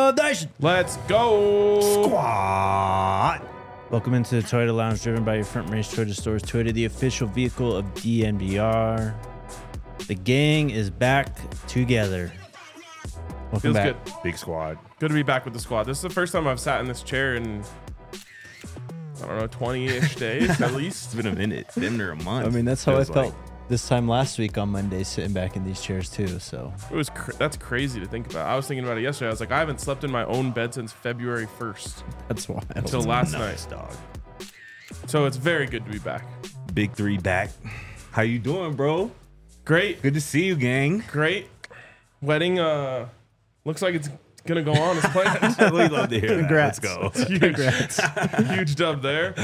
Toyota Nation. Let's go. Squad. Welcome into the Toyota Lounge, driven by your front range Toyota stores. Toyota, the official vehicle of DNVR. The gang is back together. Welcome Feels back. good. Big squad. Good to be back with the squad. This is the first time I've sat in this chair in, I don't know, 20-ish days at least. It's been a minute. Been there a month. I mean, that's how I Feels felt like. this time last week on Monday, sitting back in these chairs too. So It was that's crazy to think about. I was thinking about it yesterday. I was like, I haven't slept in my own bed since February 1st that's wild. until last Nice, night. dog. So it's very good to be back. Big three back. How you doing, bro? Great, Good to see you, gang. great. Wedding looks like it's gonna go on as planned. We love to hear Congrats. that. Let's go. Huge, huge dub there.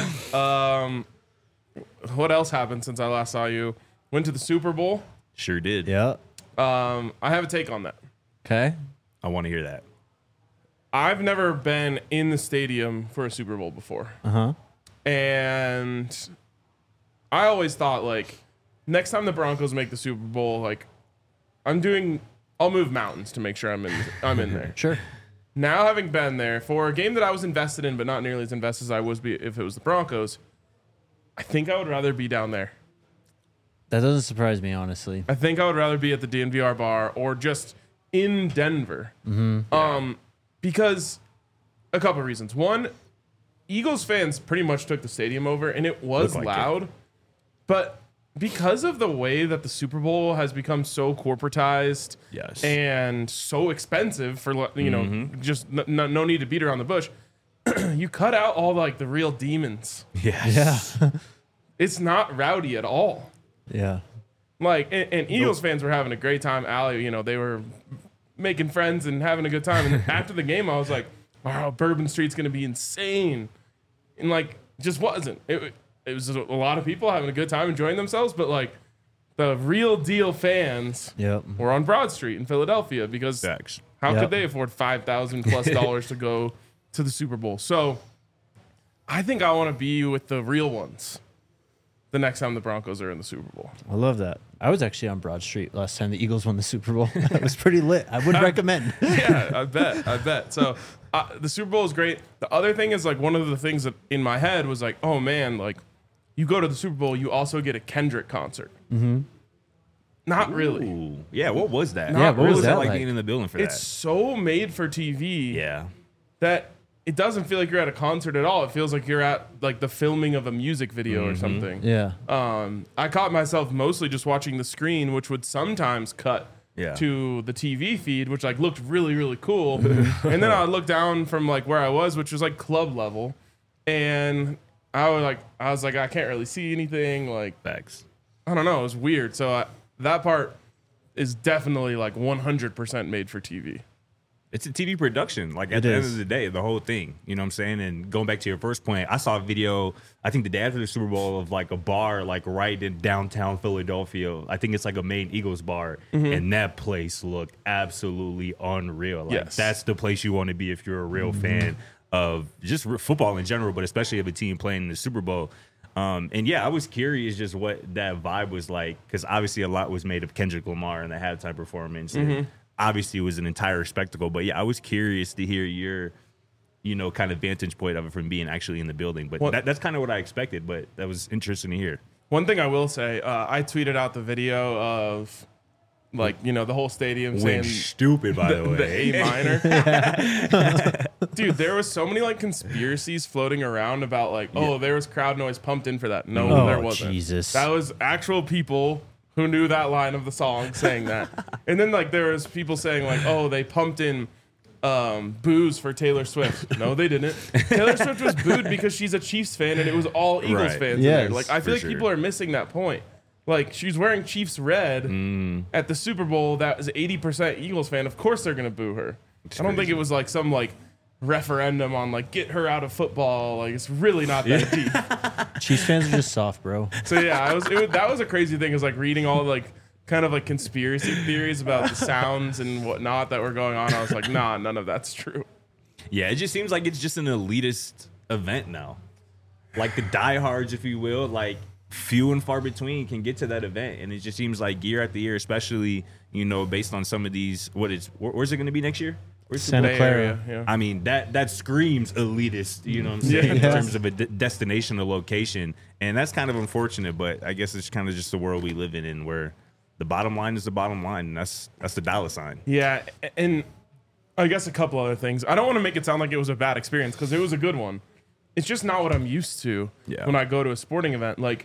What else happened since I last saw you? Went to the Super Bowl. Sure did. Yeah. I have a take on that. Okay. I want to hear that. I've never been in the stadium for a Super Bowl before. Uh-huh. And I always thought, like, next time the Broncos make the Super Bowl, like, I'll move mountains to make sure I'm in there. Sure. Now, having been there for a game that I was invested in, but not nearly as invested as I was if it was the Broncos, I think I would rather be down there. That doesn't surprise me, honestly. I think I would rather be at the DNVR bar or just in Denver. Because a couple of reasons. One, Eagles fans pretty much took the stadium over, and it was Looked like loud. But because of the way that the Super Bowl has become so corporatized Yes. and so expensive for, just no need to beat around the bush, you cut out all like the real demons. Yes. Yeah. It's not rowdy at all. Yeah. Like, and Eagles fans were having a great time. Allie, they were making friends and having a good time. And after the game, I was like, wow, Bourbon Street's going to be insane. And, like, just wasn't. It was a lot of people having a good time, enjoying themselves. But, like, the real deal fans Yep. were on Broad Street in Philadelphia because Facts. how Yep. could they afford $5,000+ to go to the Super Bowl? So I think I want to be with the real ones the next time the Broncos are in the Super Bowl. I love that. I was actually on Broad Street last time the Eagles won the Super Bowl. It was pretty lit. I would recommend. Yeah, I bet. So the Super Bowl is great. The other thing is, like, one of the things that in my head was like, oh man, like, you go to the Super Bowl, you also get a Kendrick concert. Mm-hmm. Not really. Ooh. Yeah, what was that? Yeah, what was that like like? being in the building for It's that? so made for TV Yeah. that it doesn't feel like you're at a concert at all. It feels like you're at like the filming of a music video or something. Yeah. I caught myself mostly just watching the screen, which would sometimes cut Yeah. to the TV feed, which like looked really, really cool. And then I would look down from like where I was, which was like club level, and I was like, I can't really see anything. Like, Facts. I don't know, it was weird. So that part is definitely like 100% made for TV. It's a TV production. Like, It at the end is. of the day, the whole thing. You know what I'm saying? And going back to your first point, I saw a video, I think the day after the Super Bowl, of like a bar like right in downtown Philadelphia. I think it's like a main Eagles bar. And that place looked absolutely unreal. Like, Yes. that's the place you want to be if you're a real fan of just football in general, but especially of a team playing in the Super Bowl. And yeah, I was curious just what that vibe was like, because obviously a lot was made of Kendrick Lamar in the halftime performance. And obviously it was an entire spectacle. But yeah, I was curious to hear your, kind of vantage point of it from being actually in the building. But Well- that's kind of what I expected. But that was interesting to hear. One thing I will say, I tweeted out the video of like, the whole stadium saying Went stupid, by the way. the A minor. Dude, there was so many like conspiracies floating around about like, there was crowd noise pumped in for that. No, Oh, there wasn't. Jesus. That was actual people who knew that line of the song saying that. And then like there was people saying like, they pumped in booze for Taylor Swift. No, they didn't. Taylor Swift was booed because she's a Chiefs fan and it was all Eagles Right. fans in Yes, there. Like, I feel for like sure. people are missing that point. Like, she's wearing Chiefs red at the Super Bowl. That is 80% Eagles fan. Of course they're gonna boo her. I don't think crazy. it was like some like referendum on like get her out of football. Like, it's really not that deep. Chiefs fans are just soft, bro. So yeah, that was a crazy thing. Is like reading all like kind of like conspiracy theories about the sounds and whatnot that were going on. I was like, nah, none of that's true. Yeah, it just seems like it's just an elitist event now. Like the diehards, if you will, like few and far between can get to that event. And it just seems like year after year, especially, based on some of these, where's it going to be next year? Where's the Santa Bay Clara. Area, yeah. I mean, that screams elitist, you know what I'm saying, in Yeah. terms of a destination or location. And that's kind of unfortunate, but I guess it's kind of just the world we live in where the bottom line is the bottom line, and that's the dollar sign. Yeah, and I guess a couple other things. I don't want to make it sound like it was a bad experience because it was a good one. It's just not what I'm used to when I go to a sporting event. Like,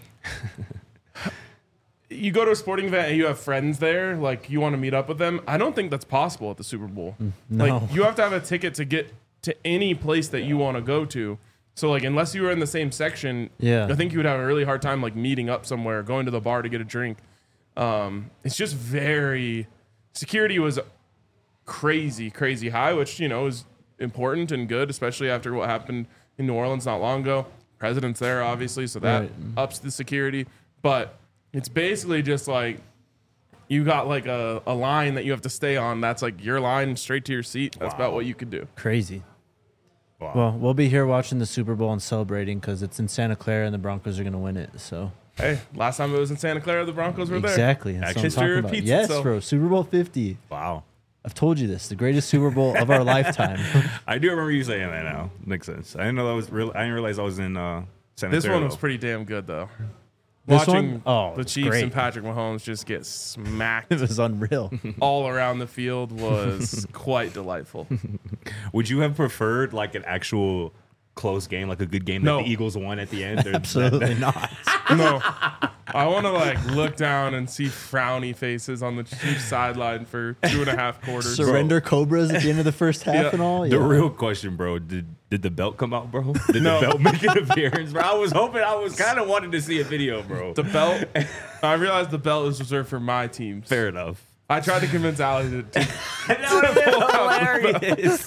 you go to a sporting event and you have friends there, like you want to meet up with them. I don't think that's possible at the Super Bowl. No. Like, you have to have a ticket to get to any place that you want to go to. So, like, unless you were in the same section, Yeah. I think you would have a really hard time, like, meeting up somewhere, going to the bar to get a drink. It's just security was crazy high, which, you know, is important and good, especially after what happened in New Orleans not long ago. President's there, obviously, so that Right. ups the security. But it's basically just like you got like a line that you have to stay on. That's like your line straight to your seat. That's about what you could do. Crazy. Wow. Well, we'll be here watching the Super Bowl and celebrating because it's in Santa Clara and the Broncos are going to win it. So Hey, last time it was in Santa Clara, the Broncos were there. exactly. That's what I'm History talking about. repeats Yes, itself. bro. Super Bowl 50. Wow. I've told you this. The greatest Super Bowl of our lifetime. I do remember you saying that now. Makes sense. I didn't know that was real. I didn't realize I was in Santa This Clara, one was though. pretty damn good, though. This Watching one? Oh, the it's Chiefs great. and Patrick Mahomes just get smacked It was unreal. all around the field was quite delightful. Would you have preferred like an actual close game, like a good game No. that the Eagles won at the end? Or Absolutely not. No, I want to like look down and see frowny faces on the Chiefs sideline for 2.5 quarters. Surrender Cobras at the end of the first half Yeah. and all. The Yeah. real question, bro, did the belt come out, bro? Did No. the belt make an appearance, bro? I was kind of wanting to see a video, bro. The belt. I realized the belt is reserved for my teams. Fair enough. I tried to convince Allie to That would have been hilarious.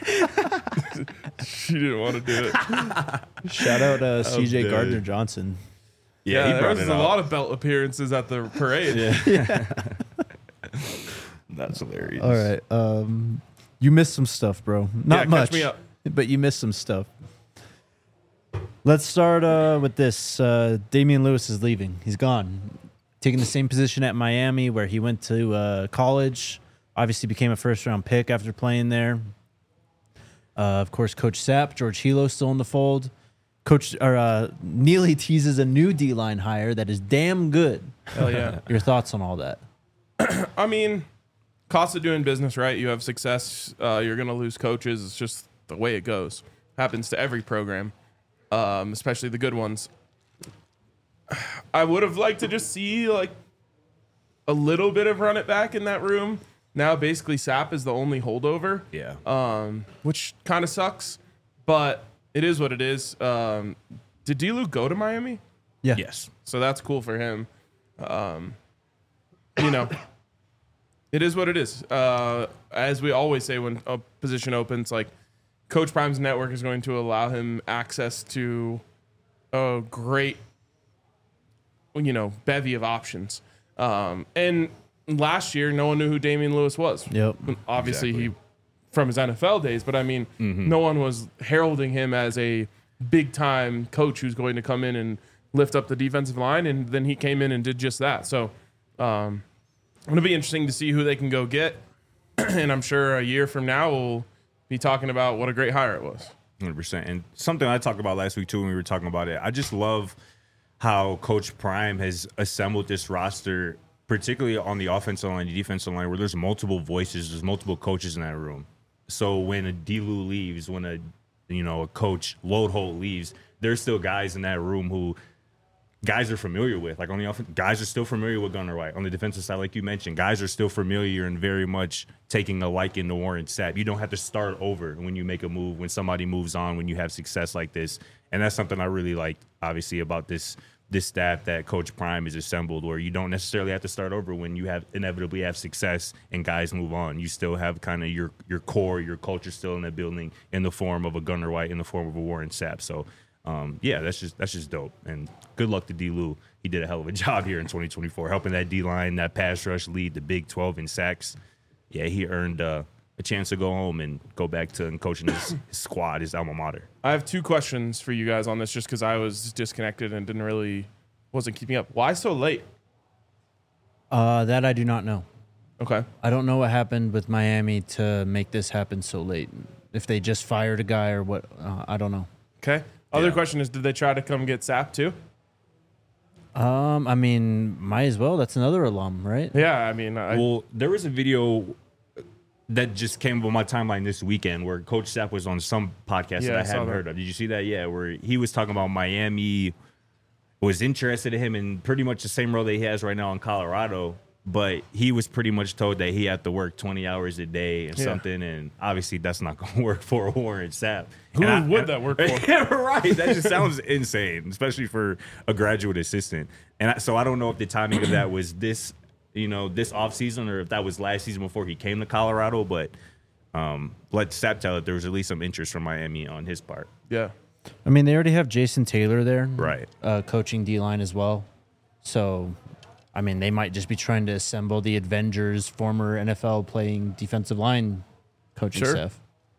she didn't want to do it. Shout out CJ dead. Gardner Johnson. Yeah, he there brought was it a up. lot of belt appearances at the parade. That's hilarious. All right. You missed some stuff, bro. Not catch much, me up. but you missed some stuff. Let's start with this. Damian Lewis is leaving. He's gone. Taking the same position at Miami where he went to college. Obviously became a first-round pick after playing there. Of course, Coach Sapp, George Hilo still in the fold. Neely teases a new D-line hire that is damn good. Hell yeah. Your thoughts on all that? I mean, cost of doing business, right? You have success, you're going to lose coaches. It's just the way it goes. Happens to every program, especially the good ones. I would have liked to just see like a little bit of run it back in that room. Now basically Sapp is the only holdover. Yeah. Which kind of sucks, but it is what it is. Did D-Lu go to Miami? Yeah. Yes. So that's cool for him. You know, it is what it is. As we always say when a position opens, like Coach Prime's network is going to allow him access to a great, you know, bevy of options. And last year, no one knew who Damian Lewis was. Yep. Obviously, Exactly. he from his NFL days, but I mean, no one was heralding him as a big time coach who's going to come in and lift up the defensive line, and then he came in and did just that. So, it'll be interesting to see who they can go get, and I'm sure a year from now we'll be talking about what a great hire it was. 100%. And something I talked about last week too when we were talking about it, I just love how Coach Prime has assembled this roster, particularly on the offensive line, the defensive line, where there's multiple voices, there's multiple coaches in that room. So when a D-Lu leaves, when a coach Load Holt leaves, there's still guys in that room who guys are familiar with. Like on the offense, guys are still familiar with Gunnar White. On the defensive side, like you mentioned, guys are still familiar and very much taking a liking to Warren Sapp. You don't have to start over when you make a move, when somebody moves on, when you have success like this. And that's something I really like, obviously, about this staff that Coach Prime has assembled, where you don't necessarily have to start over when you inevitably have success and guys move on. You still have kind of your core, your culture still in the building in the form of a Gunnar White, in the form of a Warren Sapp. So, yeah, that's just dope. And good luck to D-Lu. He did a hell of a job here in 2024, helping that D-line, that pass rush lead the Big 12 in sacks. Yeah, he earned a chance to go home and go back to coaching his squad, his alma mater. I have two questions for you guys on this, just because I was disconnected and wasn't keeping up. Why so late? That I do not know. Okay. I don't know what happened with Miami to make this happen so late. If they just fired a guy or what, I don't know. Okay. Other Yeah. question is, did they try to come get Sapp too? I mean, might as well. That's another alum, right? Yeah, I mean, Well, there was a video that just came on my timeline this weekend where Coach Sapp was on some podcast Yeah, that I I saw hadn't that. heard of. Did you see that? Yeah, where he was talking about Miami was interested in him in pretty much the same role that he has right now in Colorado, but he was pretty much told that he had to work 20 hours a day and Yeah. something, and obviously that's not going to work for Warren Sapp. Who And would that work for? Yeah, right. That just sounds insane, especially for a graduate assistant. And so I don't know if the timing of that was this, this offseason or if that was last season before he came to Colorado. But let Sapp tell it there was at least some interest from Miami on his part. yeah. I mean, they already have Jason Taylor there, Right. coaching D-line as well. So, I mean, they might just be trying to assemble the Avengers, former NFL playing defensive line coaching Sure. staff.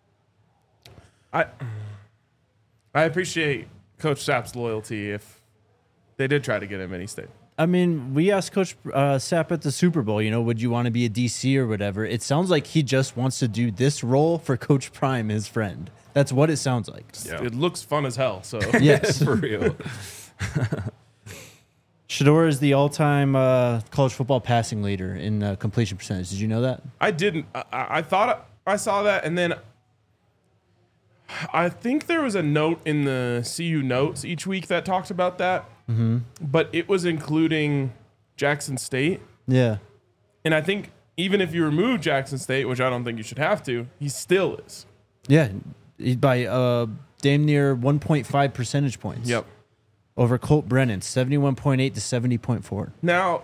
I appreciate Coach Sapp's loyalty if they did try to get him and he stayed. I mean, we asked Coach Sapp at the Super Bowl, would you want to be a DC or whatever? It sounds like he just wants to do this role for Coach Prime, his friend. That's what it sounds like. Yeah. It looks fun as hell. So Yes. For real. Shador is the all-time college football passing leader in completion percentage. Did you know that? I didn't. I thought I saw that, and then I think there was a note in the CU notes each week that talked about that. Mm-hmm. But it was including Jackson State, Yeah. and I think even if you remove Jackson State, which I don't think you should have to, he still is. Yeah. By damn near 1.5 percentage points. Yep. Over Colt Brennan, 71.8 to 70.4. Now,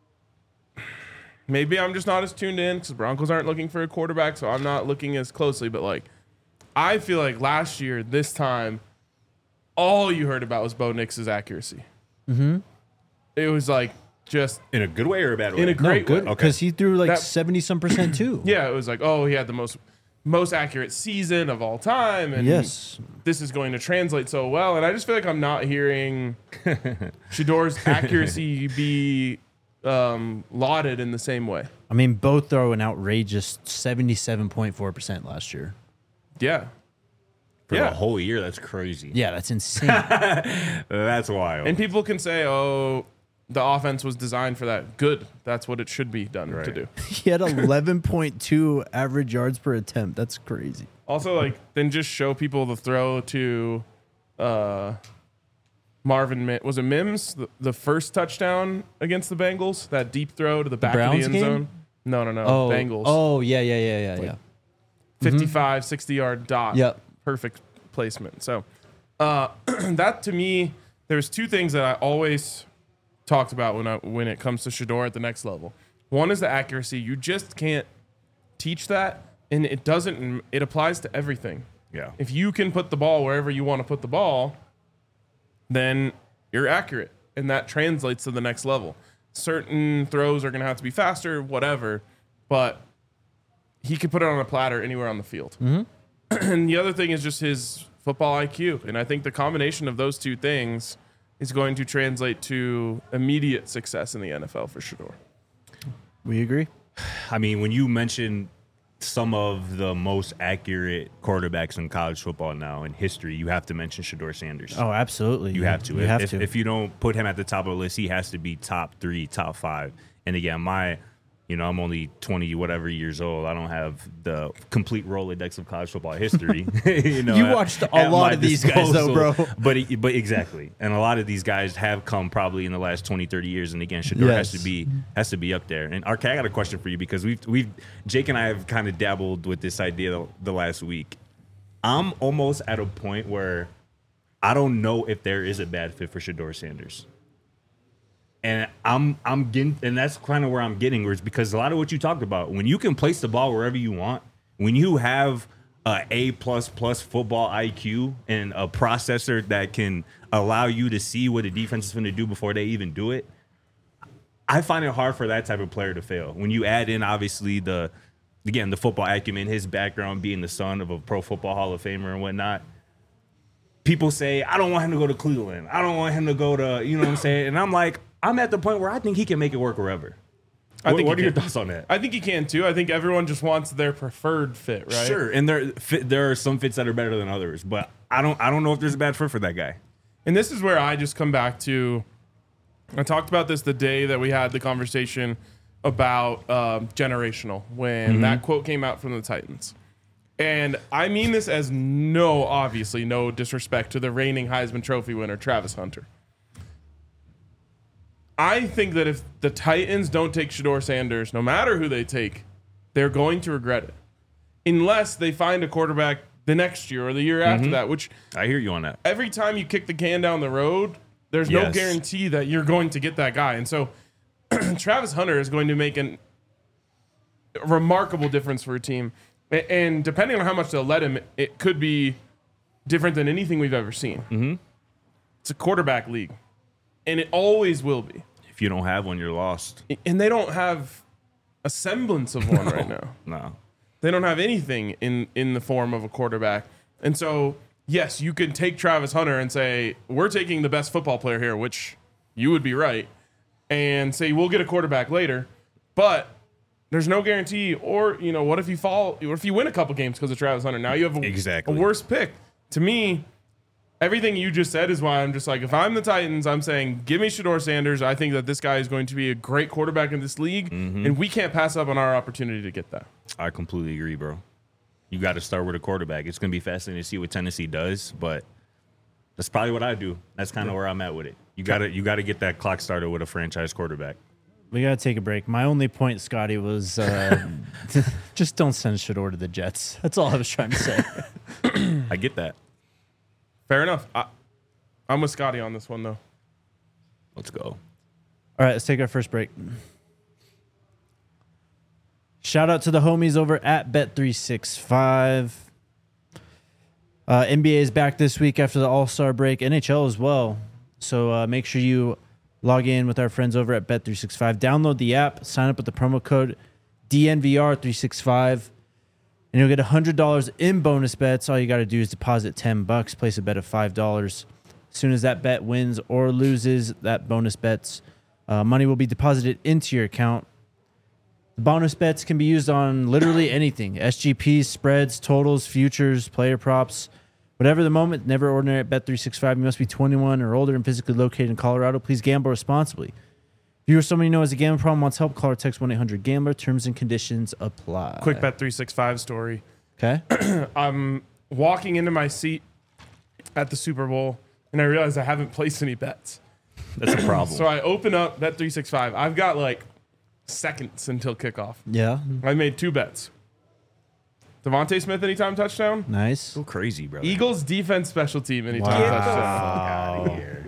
maybe I'm just not as tuned in because Broncos aren't looking for a quarterback, so I'm not looking as closely. But I feel like last year, this time, all you heard about was Bo Nix's accuracy. Mm-hmm. It was just In a good way or a bad way? in a great good way. because he threw That- 70-some% too. Yeah, it was he had the most accurate season of all time, and Yes. this is going to translate so well. And I just feel like I'm not hearing Shador's accuracy be lauded in the same way. I mean, both throw an outrageous 77.4% last year. Yeah. For Yeah. the whole year, that's crazy. Yeah, that's insane. That's wild. And people can say, oh, the offense was designed for that. Good. That's what it should be done to Right. do. He had 11.2 average yards per attempt. That's crazy. Also, then just show people the throw to Marvin. Was it Mims? The first touchdown against the Bengals? That deep throw to the back of the Browns end game? zone? No. Oh, Bengals. Oh, yeah. 55, 60-yard dot. Yep. Perfect placement. So that to me, there's two things that I always talked about when it comes to Shador at the next level. One is the accuracy. You just can't teach that, and it applies to everything. yeah. If you can put the ball wherever you want to put the ball, then you're accurate, and that translates to the next level. Certain throws are going to have to be faster, whatever, but he could put it on a platter anywhere on the field. Mm-hmm. And the other thing is just his football IQ, and I think the combination of those two things is going to translate to immediate success in the NFL for Shador. We agree. I mean, when you mention some of the most accurate quarterbacks in college football now in history, you have to mention Shador Sanders. Oh, absolutely. You have to. You have if, to. If you don't put him at the top of the list, he has to be top 3, top 5. And again, I'm only 20 whatever years old. I don't have the complete Rolodex of college football history. You watched a at lot my of these guys, though, bro. But exactly, and a lot of these guys have come probably in the last 20, 30 years. And again, Shador Yes. has to be up there. And RK, I got a question for you because Jake and I have kind of dabbled with this idea the last week. I'm almost at a point where I don't know if there is a bad fit for Shador Sanders. And I'm getting, and that's kind of where I'm getting, where it's because a lot of what you talked about, when you can place the ball wherever you want, when you have a A++ football IQ and a processor that can allow you to see what a defense is going to do before they even do it, I find it hard for that type of player to fail. When you add in, obviously, the football acumen, his background being the son of a Pro Football Hall of Famer and whatnot, people say, I don't want him to go to Cleveland. I don't want him to go to, you know what I'm saying? And I'm like, I'm at the point where I think he can make it work wherever. What are your thoughts on that? I think he can too. I think everyone just wants their preferred fit, right? Sure, and there are some fits that are better than others, but I don't know if there's a bad fit for that guy. And this is where I just come back to. I talked about this the day that we had the conversation about generational when that quote came out from the Titans. And I mean this as obviously no disrespect to the reigning Heisman Trophy winner, Travis Hunter. I think that if the Titans don't take Shedeur Sanders, no matter who they take, they're going to regret it. Unless they find a quarterback the next year or the year after that, which I hear you on that. every time you kick the can down the road, there's no guarantee that you're going to get that guy. And so Travis Hunter is going to make a remarkable difference for a team. And depending on how much they'll let him, it could be different than anything we've ever seen. It's a quarterback league, and it always will be. If you don't have one, you're lost. And they don't have a semblance of one right now. No. They don't have anything in the form of a quarterback. And so, yes, you can take Travis Hunter and say, we're taking the best football player here, which you would be right, and say, we'll get a quarterback later. But there's no guarantee. Or, what if you fall, or if you win a couple games because of Travis Hunter? Now you have a worse pick. To me, everything you just said is why I'm just like, if I'm the Titans, I'm saying, give me Shedeur Sanders. I think that this guy is going to be a great quarterback in this league, and we can't pass up on our opportunity to get that. I completely agree, bro. You got to start with a quarterback. It's going to be fascinating to see what Tennessee does, but that's probably what I do. That's kind of where I'm at with it. You got to get that clock started with a franchise quarterback. We got to take a break. My only point, Scotty, was just don't send Shedeur to the Jets. That's all I was trying to say. I get that. Fair enough. I'm with Scotty on this one, though. Let's go. All right, let's take our first break. Shout out to the homies over at Bet365. NBA is back this week after the All-Star break. NHL as well. So make sure you log in with our friends over at Bet365. Download the app. Sign up with the promo code DNVR365. And you'll get $100 in bonus bets. All you got to do is deposit $10. Place a bet of $5. As soon as that bet wins or loses, that bonus bets money will be deposited into your account. The bonus bets can be used on literally anything. SGPs, spreads, totals, futures, player props. Whatever the moment, never ordinary at Bet365. You must be 21 or older and physically located in Colorado. Please gamble responsibly. If you or someone you know has a gambling problem, wants help, call or text 1-800-GAMBLER. Terms and conditions apply. Quick Bet365 story. Okay. I'm walking into my seat at the Super Bowl, and I realize I haven't placed any bets. That's a problem. So I open up Bet365. I've got like seconds until kickoff. Yeah. I made 2 bets. Devontae Smith anytime touchdown. Nice. So crazy, bro. Eagles defense special team anytime touchdown. Out of here.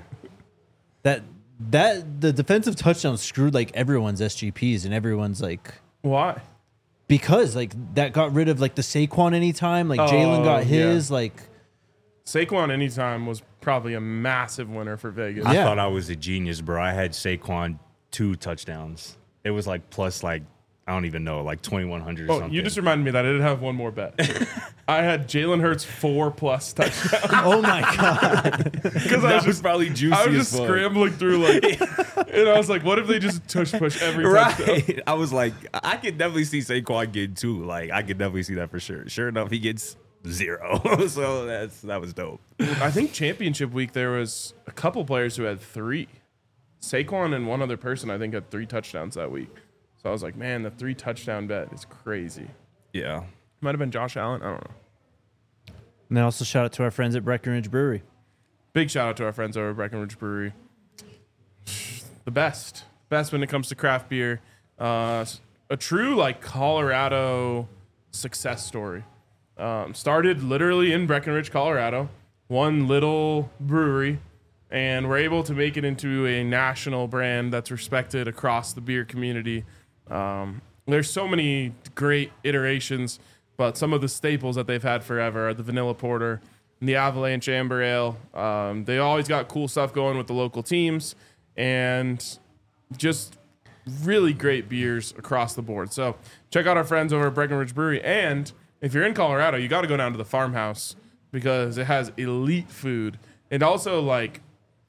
That the defensive touchdown screwed like everyone's SGPs and everyone's like Why? because like that got rid of like the Saquon anytime, like Jalen got his like Saquon anytime was probably a massive winner for Vegas. I Yeah. thought I was a genius, bro. I had Saquon 2 touchdowns. It was like plus like I don't even know, like 2,100 or Oh, something. you just reminded me that I did have one more bet. I had Jalen Hurts 4+ touchdowns. oh my god. Because that was probably juicy. I was as just fuck. scrambling through like, and I was like, what if they just push every touchdown? Right. I was like, I could definitely see Saquon getting 2. Like, I could definitely see that for sure. Sure enough, he gets 0. So that was dope. I think championship week there was a couple players who had 3. Saquon and one other person I think had 3 touchdowns that week. So I was like, man, the 3 touchdown bet is crazy. Yeah. Might have been Josh Allen. I don't know. And then also shout out to our friends at Breckenridge Brewery. Big shout out to our friends over at Breckenridge Brewery. The best when it comes to craft beer. A true like Colorado success story. Started literally in Breckenridge, Colorado. One little brewery, and we're able to make it into a national brand that's respected across the beer community. There's so many great iterations, but some of the staples that they've had forever are the Vanilla Porter and the Avalanche Amber Ale. They always got cool stuff going with the local teams, and just really great beers across the board. So check out our friends over at Breckenridge Brewery. And if you're in Colorado, you got to go down to the farmhouse because it has elite food. And also, like,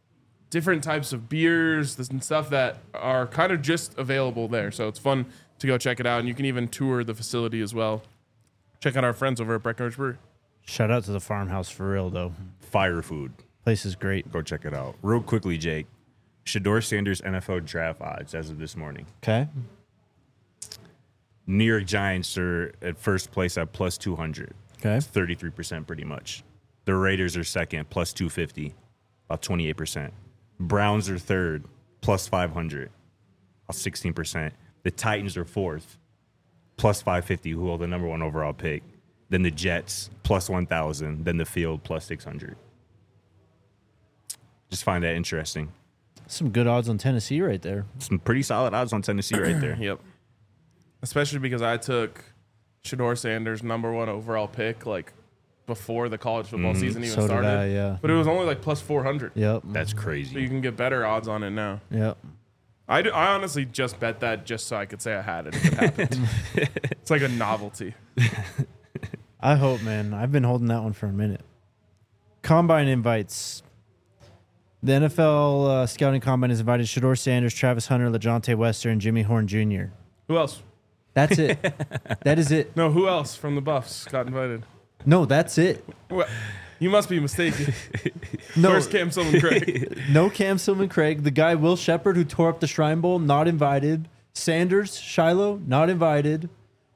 different types of beers and stuff that are kind of just available there. So it's fun to go check it out. And you can even tour the facility as well. Check out our friends over at Breckenridge Brewery. Shout out to the farmhouse for real, though. Fire food. Place is great. Go check it out. Real quickly, Jake. Shedeur Sanders NFL draft odds as of this morning. Okay. New York Giants are at first place at plus 200. Okay. That's 33% pretty much. The Raiders are second, plus 250, about 28%. Browns are third, plus 500, about 16%. The Titans are fourth, plus 550, who hold the number one overall pick. Then the Jets, plus 1,000. Then the Field, plus 600. Just find that interesting. Some good odds on Tennessee right there. Some pretty solid odds on Tennessee right there. Yep. Especially because I took Shedeur Sanders' number one overall pick like before the college football season even So did started. I, yeah. But it was only like plus 400. Yep. That's So you crazy. can get better odds on it now. Yep. I honestly just bet that just so I could say I had it if it happened. It's like a novelty. I hope, man. I've been holding that one for a minute. Combine invites. The NFL Scouting Combine has invited Shedeur Sanders, Travis Hunter, LaJohntay Wester, and Jimmy Horn Jr. Who else? That's it. That is it. No, who else from the Buffs got invited? No, that's it. What? You must be mistaken. No, Where's Cam Silman-Craig? no Cam Silman-Craig. The guy Will Shepard who tore up the Shrine Bowl, not invited. Sanders, Shiloh, not invited.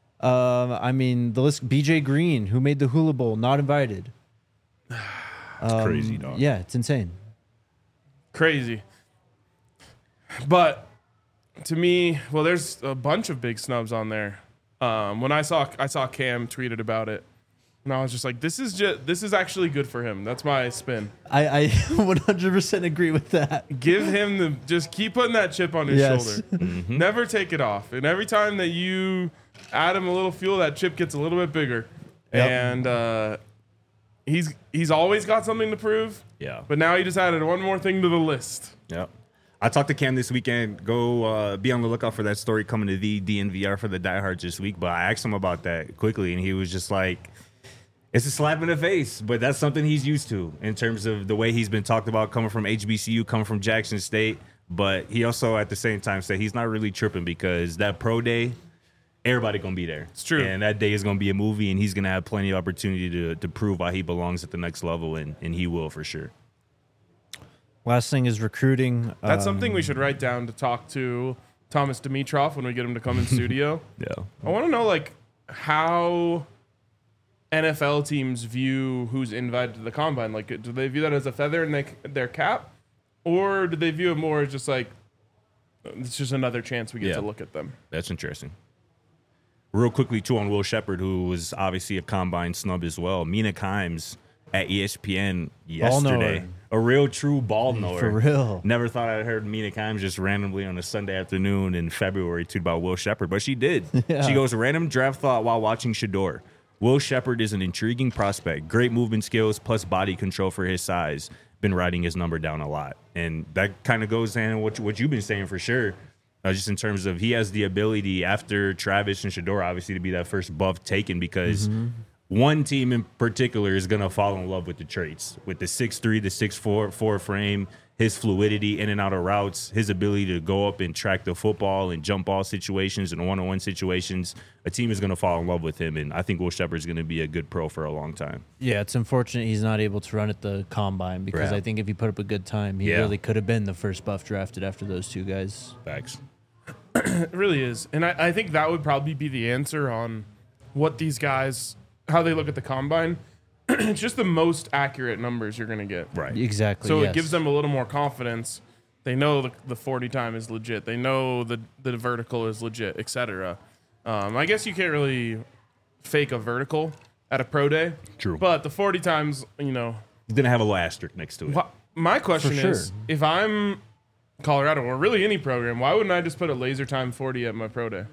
I mean, the list. BJ Green, who made the Hula Bowl, not invited. It's crazy, dog. Yeah, it's insane. Crazy. But to me, well, there's a bunch of big snubs on there. When I saw Cam tweeted about it, and I was just like, this is actually good for him. That's my spin. I 100% agree with that. Give him just keep putting that chip on his Yes. shoulder. Never take it off. And every time that you add him a little fuel, that chip gets a little bit bigger. Yep. And he's always got something to prove. Yeah. But now he just added one more thing to the list. Yep. I talked to Cam this weekend. Go be on the lookout for that story coming to the DNVR for the diehards this week. But I asked him about that quickly, and he was just like, it's a slap in the face, but that's something he's used to in terms of the way he's been talked about coming from HBCU, coming from Jackson State. But he also, at the same time, said he's not really tripping because that pro day, everybody going to be there. It's true. And that day is going to be a movie, and he's going to have plenty of opportunity to prove why he belongs at the next level, and he will for sure. Last thing is recruiting. That's something we should write down to talk to Thomas Dimitrov when we get him to come in studio. Yeah. I want to know like how NFL teams view who's invited to the combine. Like, do they view that as a feather in their cap, or do they view it more as just like it's just another chance we get Yeah. to look at them? That's interesting. Real quickly, too, on Will Shepard, who was obviously a combine snub as well. Mina Kimes at ESPN yesterday. knower. A real true ball knower. For real. Never thought I'd heard Mina Kimes just randomly on a Sunday afternoon in February tweet about Will Shepard, but she did. Yeah. She goes, random draft thought while watching Shedeur. Will Shepard is an intriguing prospect. Great movement skills plus body control for his size. Been writing his number down a lot. And that kind of goes in what you've been saying for sure. Just in terms of he has the ability after Travis and Shedeur, obviously, to be that first buff taken because one team in particular is going to fall in love with the traits, with the 6'3", the 6'4" frame, his fluidity in and out of routes, his ability to go up and track the football and jump ball situations and one-on-one situations. A team is going to fall in love with him, and I think Will Shepard is going to be a good pro for a long time. Yeah, it's unfortunate he's not able to run at the combine because Yeah. I think if he put up a good time, he Yeah. really could have been the first buff drafted after those two guys. Facts. It really is. And I think that would probably be the answer on what these guys, how they look at the combine. It's just the most accurate numbers you're going to get. Right. Exactly. So yes. it gives them a little more confidence. They know the 40 time is legit. They know the vertical is legit, etc. I guess you can't really fake a vertical at a pro day. True. But the 40 times, you know. He's going to have a little asterisk next to it. My question For is, sure. if I'm Colorado or really any program, why wouldn't I just put a laser time 40 at my pro day?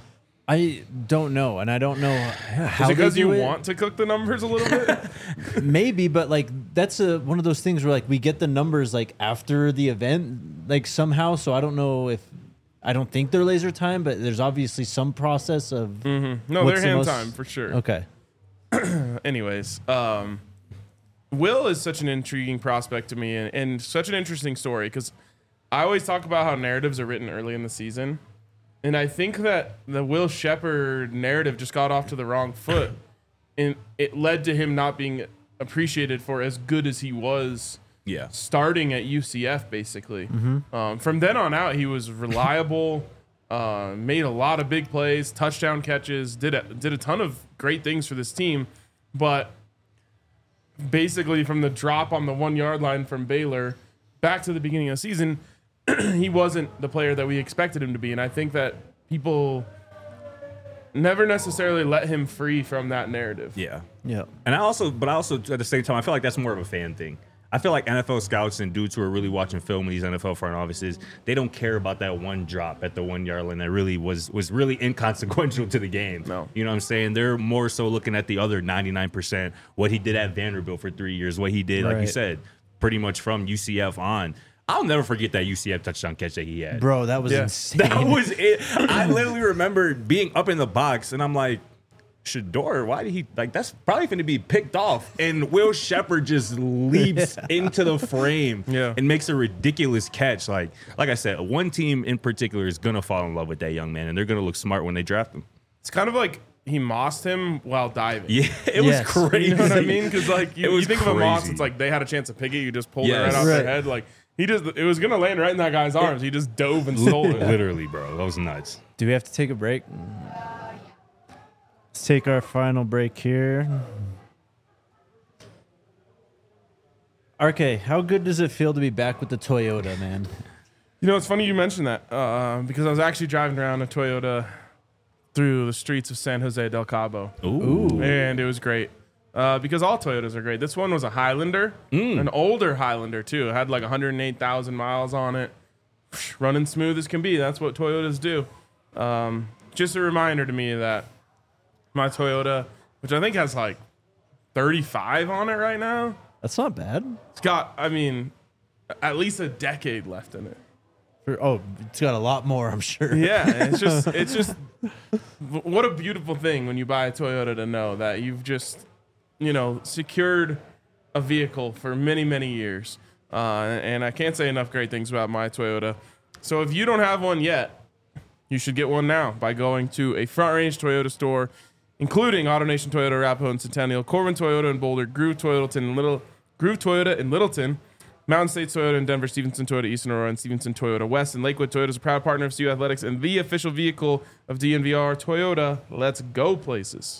I don't know, and I don't know how Is it because they you do it. want to cook the numbers a little bit? Maybe, but like that's one of those things where like we get the numbers like after the event, like somehow. So I don't know if I don't think they're laser time, but there's obviously some process of. No, What's they're the hand most- time for sure. Okay. Anyways, Will is such an intriguing prospect to me and such an interesting story because I always talk about how narratives are written early in the season. And I think that the Will Shepherd narrative just got off to the wrong foot. And it led to him not being appreciated for as good as he was starting at UCF, basically. From then on out, he was reliable, made a lot of big plays, touchdown catches, did a ton of great things for this team. But basically from the drop on the 1 yard line from Baylor back to the beginning of the season, he wasn't the player that we expected him to be. And I think that people never necessarily let him free from that narrative. Yeah. Yeah. And I also at the same time, I feel like that's more of a fan thing. I feel like NFL scouts and dudes who are really watching film in these NFL front offices, they don't care about that one drop at the 1 yard line that really was really inconsequential to the game. No. You know what I'm saying? They're more so looking at the other 99%, what he did at Vanderbilt for 3 years, what he did, like you said, pretty much from UCF on. I'll never forget that UCF touchdown catch that he had. Bro, that was insane. That was it. I literally remember being up in the box, and I'm like, Shedeur, why did he, like, that's probably going to be picked off. And Will Shepherd just leaps into the frame and makes a ridiculous catch. Like I said, one team in particular is going to fall in love with that young man, and they're going to look smart when they draft him. It's kind of like he mossed him while diving. Yeah, it was crazy. You know what I mean? Because, like, you think of a moss, crazy. it's like they had a chance to pick it. You just pulled it right off their head. Like, it was going to land right in that guy's arms. He just dove and stole it. Literally, bro. That was nuts. Do we have to take a break? Let's take our final break here. RK, how good does it feel to be back with the Toyota, man? You know, it's funny you mentioned that because I was actually driving around a Toyota through the streets of San Jose del Cabo. Ooh. And it was great because all Toyotas are great. This one was a Highlander, an older Highlander, too. It had like 108,000 miles on it. Running smooth as can be. That's what Toyotas do. Just a reminder to me that my Toyota, which I think has like 35 on it right now. That's not bad. It's got, I mean, at least a decade left in it. It's got a lot more, I'm sure. Yeah, it's just what a beautiful thing when you buy a Toyota to know that you've just, secured a vehicle for many, many years. And I can't say enough great things about my Toyota. So if you don't have one yet, you should get one now by going to a Front Range Toyota store, including AutoNation Toyota, Arapahoe and Centennial, Corbin Toyota in Boulder, Groove Toyota in Littleton, Mountain State Toyota in Denver, Stevenson Toyota Eastern Aurora, and Stevenson Toyota West. And Lakewood Toyota is a proud partner of CU Athletics and the official vehicle of DNVR. Toyota, let's go places.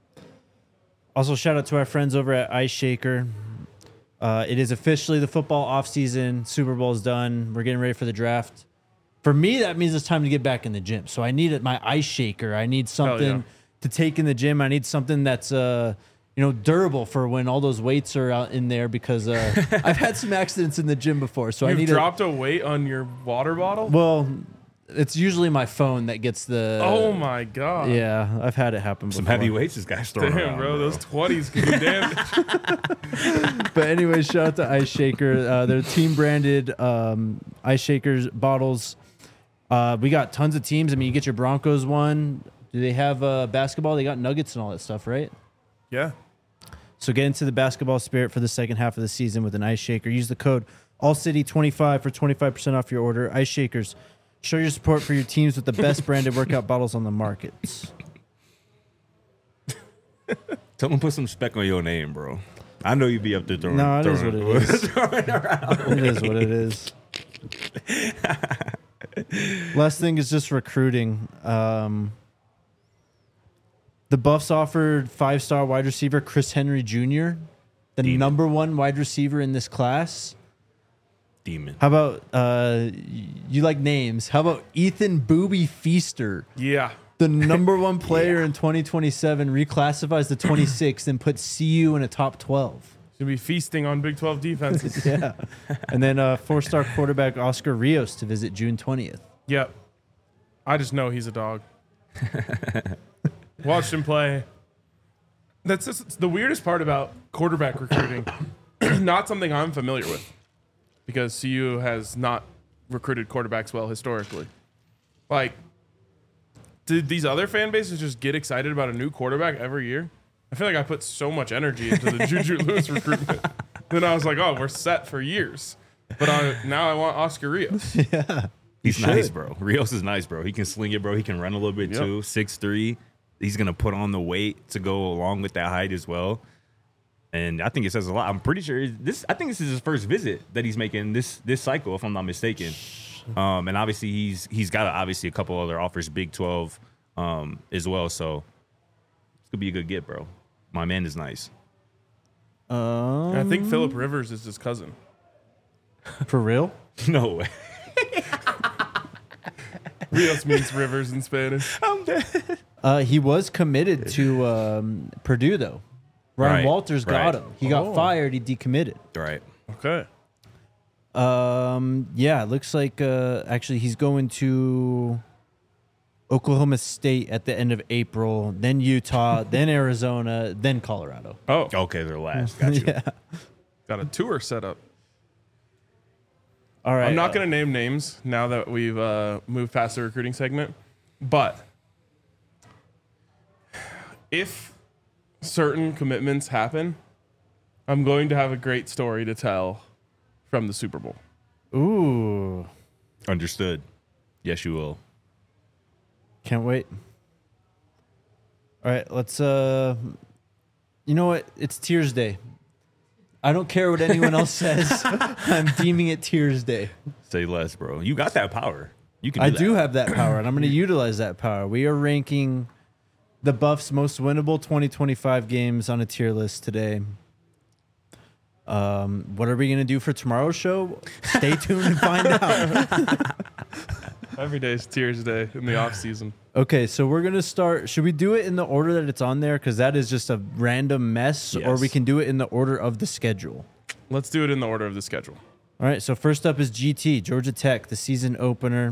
Also, shout out to our friends over at Ice Shaker. It is officially the football offseason. Super Bowl's done. We're getting ready for the draft. For me, that means it's time to get back in the gym. So I need my Ice Shaker. I need something to take in the gym. I need something that's durable for when all those weights are out in there because I've had some accidents in the gym before. So You've dropped a weight on your water bottle? Well, it's usually my phone that gets the. Oh my god! Yeah, I've had it happen before. Some heavy weights this guy's throwing around, bro. Those 20s can do damage. But anyway, shout out to Ice Shaker. They're team branded Ice Shakers bottles. We got tons of teams. I mean, you get your Broncos one. Do they have basketball? They got Nuggets and all that stuff, right? Yeah. So get into the basketball spirit for the second half of the season with an Ice Shaker. Use the code ALLCITY25 for 25% off your order. Ice Shakers. Show your support for your teams with the best branded workout bottles on the market. Tell them put some spec on your name, bro. I know you be up there throwing. No, it is what it is. It is what it is. Last thing is just recruiting. The Buffs offered 5-star wide receiver Chris Henry Jr., the number one wide receiver in this class. Demon. How about you like names? How about Ethan Booby Feaster? Yeah. The number one player in 2027 reclassifies to 26 and puts CU in a top 12. Should be feasting on Big 12 defenses. Yeah. And then 4-star quarterback Oscar Rios to visit June 20th. Yep. I just know he's a dog. Watched him play. That's just the weirdest part about quarterback recruiting. Not something I'm familiar with because CU has not recruited quarterbacks well historically. Like, did these other fan bases just get excited about a new quarterback every year? I feel like I put so much energy into the Juju Lewis recruitment. Then I was like, oh, we're set for years. But now I want Oscar Rios. He's should. nice, bro. Rios is nice, bro. He can sling it, bro. He can run a little bit Yep. too. 6'3". He's gonna put on the weight to go along with that height as well. And I think it says a lot. I'm pretty sure I think this is his first visit that he's making this cycle, if I'm not mistaken. And obviously he's got obviously a couple other offers, Big 12, as well. So it's gonna be a good get, bro. My man is nice. I think Phillip Rivers is his cousin. For real? No way. Rios means rivers in Spanish. I'm dead. He was committed to Purdue, though. Ryan Right, Walters got right. him. He got fired. He decommitted. Right. Okay. Yeah, it looks like actually he's going to Oklahoma State at the end of April, then Utah, then Arizona, then Colorado. Oh, Okay, they're last. Got you. Yeah. got a tour set up. All right. I'm not going to name names now that we've moved past the recruiting segment, but if certain commitments happen, I'm going to have a great story to tell from the Super Bowl. Ooh, Understood. Yes, you will. can't wait. All right, let's. You know what? It's Tears Day. I don't care what anyone else says. I'm deeming it Tears Day. Say less, bro. You got that power. You can. I that. do have that power, and I'm going to utilize that power. We are ranking the Buffs' most winnable 2025 games on a tier list today. What are we going to do for tomorrow's show? Stay tuned and find out. Every day is Tears Day in the off season. Okay, so we're going to start. Should we do it in the order that it's on there? Because that is just a random mess, or Yes. we can do it in the order of the schedule. Let's do it in the order of the schedule. All right, so first up is GT, Georgia Tech, the season opener.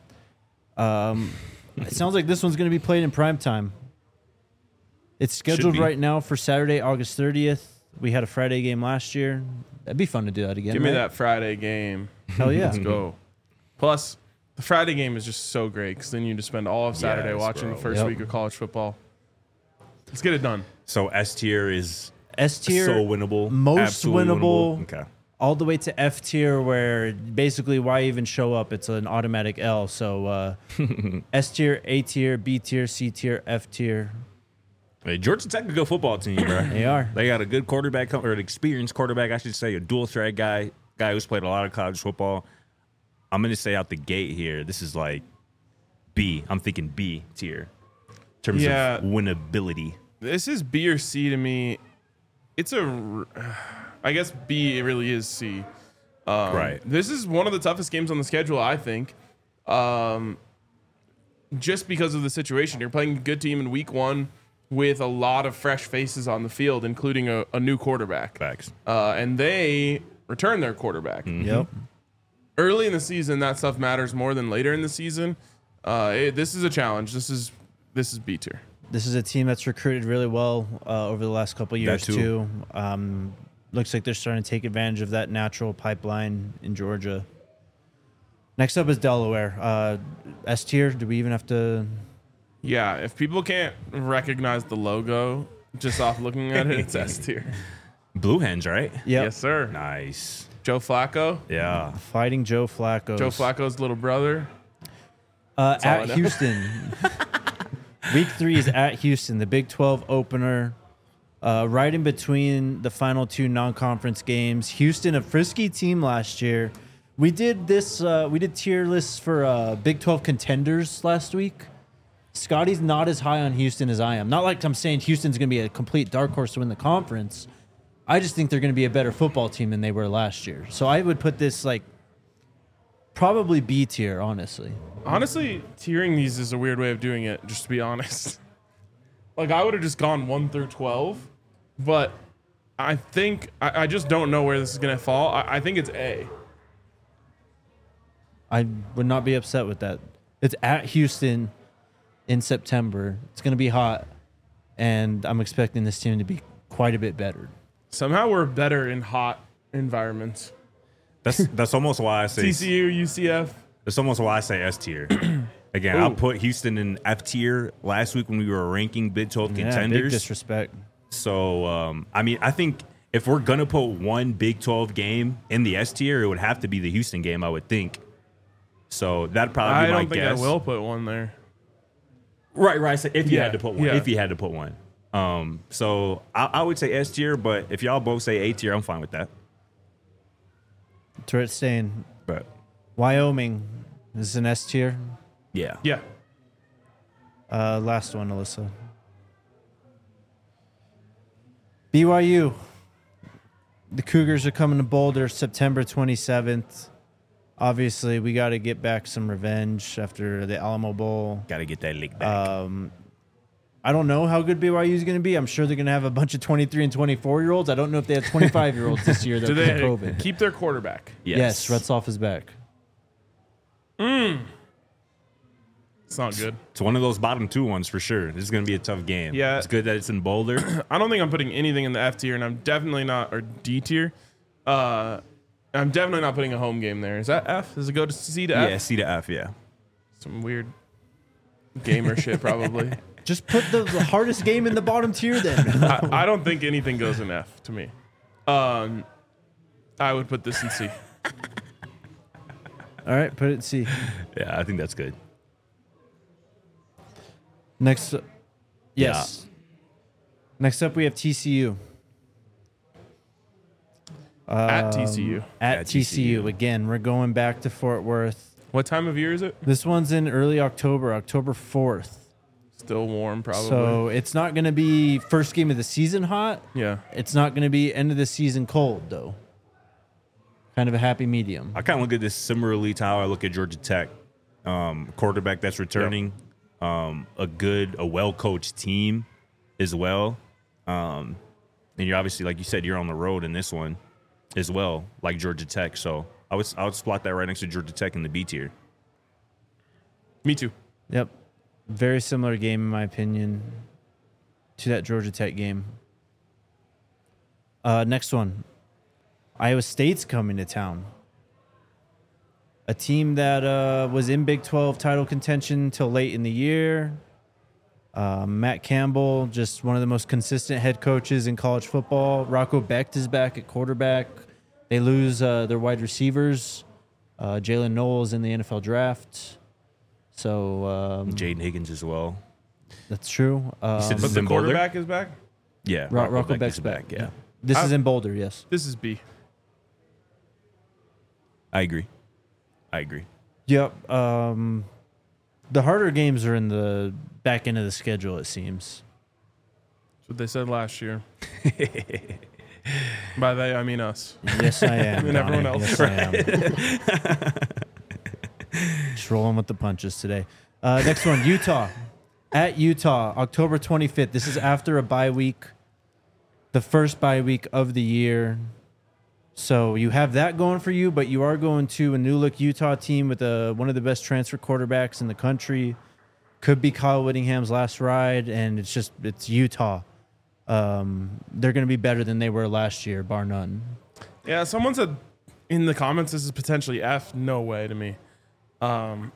It sounds like this one's going to be played in prime time. It's scheduled be. right now for Saturday, August 30th. We had a Friday game last year. That'd be fun to do that again. Give me right? that Friday game. Hell yeah. Let's go. Plus, the Friday game is just so great because then you just spend all of Saturday Yes, watching bro. the first Yep. week of college football. Let's get it done. So S tier is S tier, so winnable. most absolutely winnable. Okay. all the way to F tier, where basically why even show up? It's an automatic L. So S tier, A tier, B tier, C tier, F tier. Hey, Georgia Tech a good football team, bro. They are. They got a good quarterback, or an experienced quarterback, I should say, a dual threat guy who's played a lot of college football. I'm going to say out the gate here, this is like B. I'm thinking B tier in terms Yeah. of winnability. This is B or C to me. It's I guess B, it really is C. Right. This is one of the toughest games on the schedule, I think. Just because of the situation. You're playing a good team in week one with a lot of fresh faces on the field, including a new quarterback. Facts. And they return their quarterback. Yep. Early in the season, that stuff matters more than later in the season. This is a challenge. This is B tier. This is a team that's recruited really well over the last couple of years too. too. Looks like they're starting to take advantage of that natural pipeline in Georgia. Next up is Delaware. S tier. Do we even have to? Yeah, if people can't recognize the logo just off looking at it, it's S tier. Blue Hens, right? Yeah. Yes, sir. Nice. Joe Flacco. Yeah. Fighting Joe Flacco. Joe Flacco's little brother. all I At know. Houston. Week 3 is at Houston, the Big 12 opener. Right in between the final two non-conference games. Houston, a frisky team last year. We did this. We did tier lists for Big 12 contenders last week. Scotty's not as high on Houston as I am. Not like I'm saying Houston's going to be a complete dark horse to win the conference. I just think they're going to be a better football team than they were last year. So I would put this like probably B tier, honestly. Honestly, tiering these is a weird way of doing it, just to be honest. Like, I would have just gone 1 through 12, but I think, I just don't know where this is going to fall. I think it's A. I would not be upset with that. It's at Houston in September. It's going to be hot, and I'm expecting this team to be quite a bit better. Somehow we're better in hot environments. That's almost why I say TCU, UCF. That's almost why I say S tier. Again, I put Houston in F tier last week when we were ranking Big 12 Yeah, big contenders. disrespect. So, I mean, I think if we're gonna put one Big 12 game in the S tier, it would have to be the Houston game, I would think. So that'd probably be my I don't think guess. I will put one there. Right. So if you had to put one, yeah. if you had to put one. So I would say S tier, but if y'all both say A tier, I'm fine with that. Turret Stain. But Wyoming is an S tier. yeah. Yeah. Last one, Alyssa. BYU. The Cougars are coming to Boulder September 27th. Obviously, we got to get back some revenge after the Alamo Bowl. Got to get that lick back. I don't know how good BYU is going to be. I'm sure they're going to have a bunch of 23 and 24-year-olds. I don't know if they have 25-year-olds this year. Do That they COVID. keep their quarterback? Yes, Retzloff is back. It's not good. It's one of those bottom two ones for sure. This is going to be a tough game. Yeah. It's good that it's in Boulder. I don't think I'm putting anything in the F tier, and I'm definitely not, or D tier. I'm definitely not putting a home game there. Is that F? Does it go to C to F? Yeah, C to F, yeah. Some weird gamer shit, probably. Just put the hardest game in the bottom tier then. I don't think anything goes in F to me. I would put this in C. All right, put it in C. Yeah, I think that's good. Next, yes. Next up, we have TCU. At TCU. At TCU. Again, we're going back to Fort Worth. What time of year is it? This one's in early October, October 4th. Still warm, probably. So it's not going to be first game of the season hot. yeah. It's not going to be end of the season cold, though. Kind of a happy medium. I kind of look at this similarly to how I look at Georgia Tech. Quarterback that's returning. A well-coached team as well. And you're obviously, like you said, you're on the road in this one as well, like Georgia Tech. So I would slot that right next to Georgia Tech in the B tier. Me too. Yep. Very similar game, in my opinion, to that Georgia Tech game. Next one. Iowa State's coming to town. A team that was in Big 12 title contention till late in the year. Matt Campbell, just one of the most consistent head coaches in college football. Rocco Becht is back at quarterback. They lose their wide receivers. Jalen Knowles in the NFL draft. So Jaden Higgins as well. that's true. said But is the in Boulder? quarterback is back? Yeah, Rocco Becht Becht's is back. Yeah, This is in Boulder, yes. This is B. I agree. Yep. The harder games are in the back end of the schedule, it seems. That's what they said last year. By they, I mean us. Yes, I am. And everyone Donnie. else. Yes, I am. Just rolling with the punches today. Next one, Utah. At Utah, October 25th. This is after a bye week, the first bye week of the year. So you have that going for you, but you are going to a new look Utah team with one of the best transfer quarterbacks in the country. Could be Kyle Whittingham's last ride, and it's Utah. They're going to be better than they were last year, bar none. Yeah, someone said in the comments this is potentially F. No way to me. I'm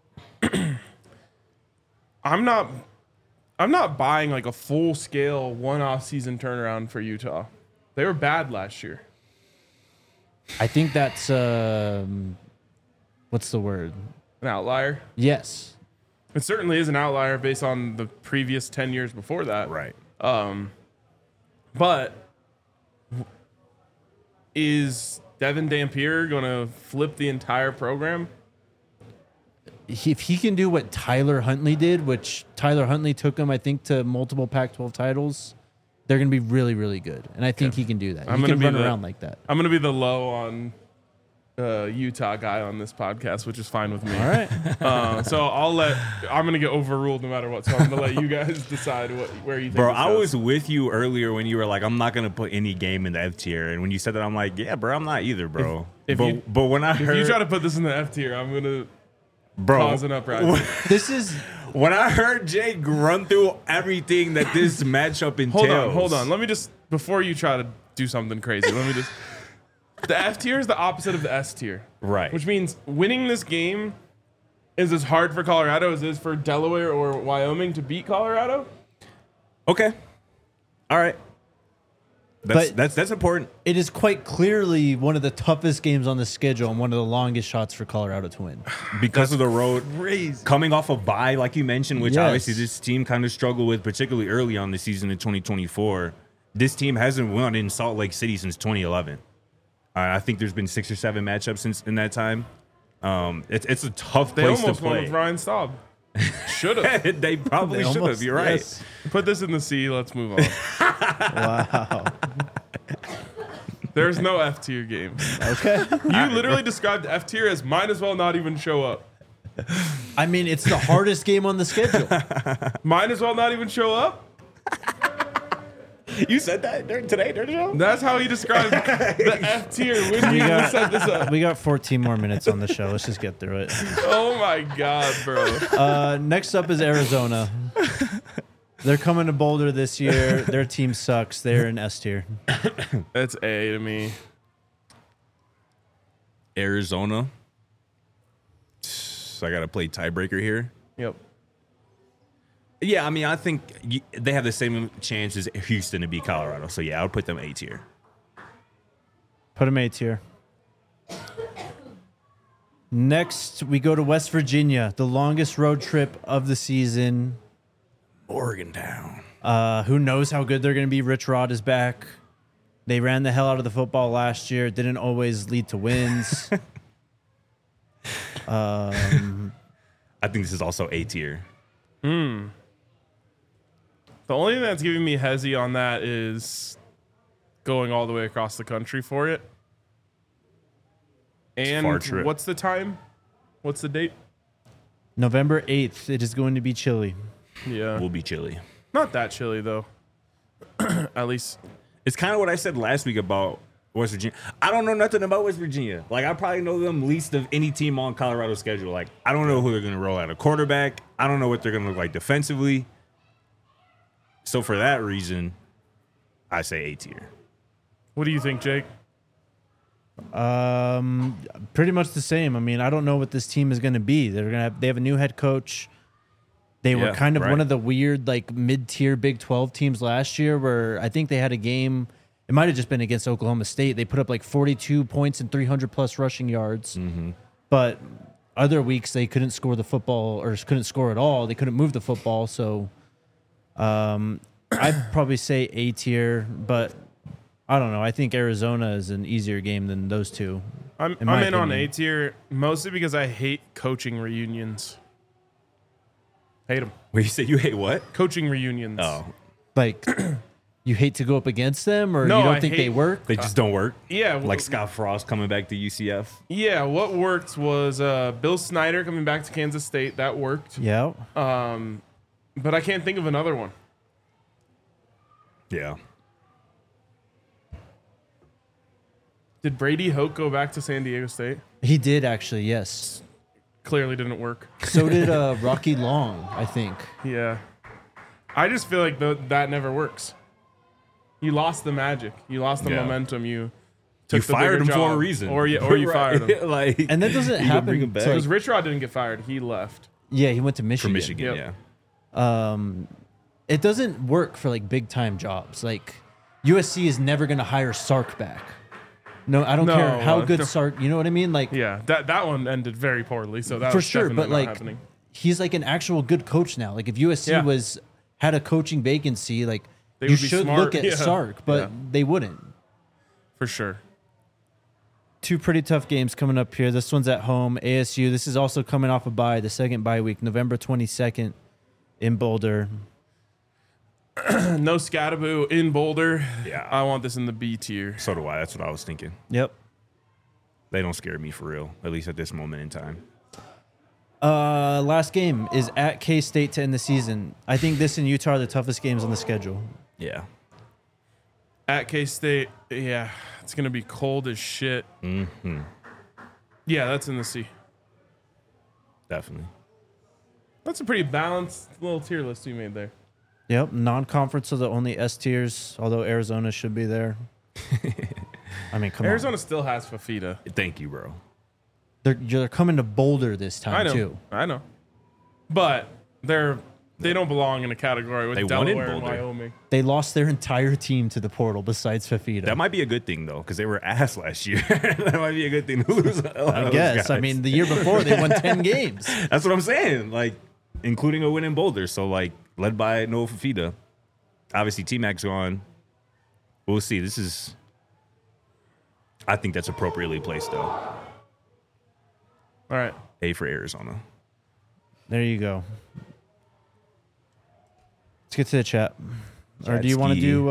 not buying like a full scale one-off season turnaround for Utah. They were bad last year. I think that's what's the word? An outlier. Yes. It certainly is an outlier based on the previous 10 years before that. right. But is Devin Dampier going to flip the entire program? If he can do what Tyler Huntley did, which Tyler Huntley took him, I think, to multiple Pac-12 titles, they're going to be really, really good. And I think he can do that. I'm He gonna can be run the- around like that. I'm going to be the low on Utah guy on this podcast, which is fine with me. All right. So I'm going to get overruled no matter what. So I'm going to let you guys decide where you think Bro, this I goes. was with you earlier when you were like, I'm not going to put any game in the F tier. And when you said that, I'm like, yeah, bro, I'm not either, bro. If but, you- but when I If heard, you try to put this in the F tier, I'm going to bro, cause an uprising. This is when I heard Jake run through everything that this matchup entails. Hold on. Let me just, before you try to do something crazy, let me just. The F tier is the opposite of the S tier. Right. Which means winning this game is as hard for Colorado as it is for Delaware or Wyoming to beat Colorado. Okay. All right. That's important. It is quite clearly one of the toughest games on the schedule and one of the longest shots for Colorado to win. Because of the road. Crazy. Coming off a bye, like you mentioned, which Yes. obviously this team kind of struggled with, particularly early on the season in 2024. This team hasn't won in Salt Lake City since 2011. I think there's been 6 or 7 matchups since in that time. It's a tough They place to almost won play. with Ryan Staub. Should have. They probably They should have. almost- You're right. yes. Put this in the C. Let's move on. Wow. There's no F tier games. Okay. You literally described F tier as might as well not even show up. I mean, it's the hardest game on the schedule. Might as well not even show up. You said that today during the show? That's how he described the F tier when We you got- set this up. We got 14 more minutes on the show. Let's just get through it. Oh my god, bro. Next up is Arizona. They're coming to Boulder this year. Their team sucks. They're in S tier. That's A to me. Arizona. So I got to play tiebreaker here. Yep. Yeah, I mean, I think they have the same chance as Houston to beat Colorado. So, yeah, I would put them A tier. Put them A tier. Next, we go to West Virginia, the longest road trip of the season. Morgantown. Who knows how good they're going to be? Rich Rod is back. They ran the hell out of the football last year. It didn't always lead to wins. I think this is also A tier. The only thing that's giving me hezzy on that is going all the way across the country for it. And far trip. what's the time? What's the date? November 8th. It is going to be chilly. Yeah. Will be chilly. Not that chilly, though. At least. It's kind of what I said last week about West Virginia. I don't know nothing about West Virginia. Like, I probably know them least of any team on Colorado's schedule. Like, I don't know who they're going to roll out a quarterback. I don't know what they're going to look like defensively. So, for that reason, I say A tier. What do you think, Jake? Pretty much the same. I mean, I don't know what this team is going to be. They have a new head coach. They were Yeah, kind of right. one of the weird, like, mid-tier Big 12 teams last year where I think they had a game. It might have just been against Oklahoma State. They put up like 42 points and 300-plus rushing yards. Mm-hmm. But other weeks, they couldn't score the football or couldn't score at all. They couldn't move the football. So I'd probably say A tier, but I don't know. I think Arizona is an easier game than those two. I'm my in on opinion. A tier mostly because I hate coaching reunions. Hate them. Wait, you said you hate what? Coaching reunions. Oh, Like, you hate to go up against them, or No, you don't I think hate- they work? they just don't work? Yeah. Like Scott Frost coming back to UCF? Yeah, what worked was Bill Snyder coming back to Kansas State. That worked. Yeah. But I can't think of another one. Yeah. Did Brady Hoke go back to San Diego State? He did, actually, yes. Clearly didn't work. So did Rocky Long, I think. Yeah. I just feel like that never works. You lost the magic. You lost the Yeah. momentum. You You took the fired bigger him for a job. reason. Or you fired him. Like, And that doesn't you gonna bring happen him back? to, Because Rich Rod didn't get fired. He left. Yeah, he went to Michigan. from Michigan, Yep. yeah. It doesn't work for like big time jobs. Like USC is never going to hire Sark back. No, I don't No, care how good no. Sark. You know what I mean? Like Yeah, that one ended very poorly. So that for was sure, definitely but not like happening. he's like an actual good coach now. Like if USC Yeah. had a coaching vacancy, like They you would be should smart. look at Yeah. Sark, but Yeah. they wouldn't. For sure. Two pretty tough games coming up here. This one's at home, ASU. This is also coming off a bye, the second bye week, November 22nd in Boulder. No Scattaboo in Boulder. Yeah. I want this in the B tier. So do I. That's what I was thinking. Yep. They don't scare me for real, at least at this moment in time. Last game is at K-State to end the season. I think this and Utah are the toughest games on the schedule. Yeah. At K-State, yeah, it's going to be cold as shit. Mm-hmm. Yeah, that's in the C. Definitely. That's a pretty balanced little tier list we made there. Yep, non-conference are the only S tiers, although Arizona should be there. I mean, come Arizona on. still has Fafita. Thank you, bro. They're coming to Boulder this time, I know. too. I know. But they're They don't belong in a category with They won in Delaware and Boulder. Wyoming. They lost their entire team to the portal besides Fafita. That might be a good thing though, because they were ass last year. That might be a good thing to lose. I guess. I mean, the year before they won 10 games. That's what I'm saying. Like, including a win in Boulder. So, like, led by Noah Fafita. Obviously, T-Mac's gone. We'll see. I think that's appropriately placed, though. All right. A for Arizona. There you go. Let's get to the chat. Or do you want to do...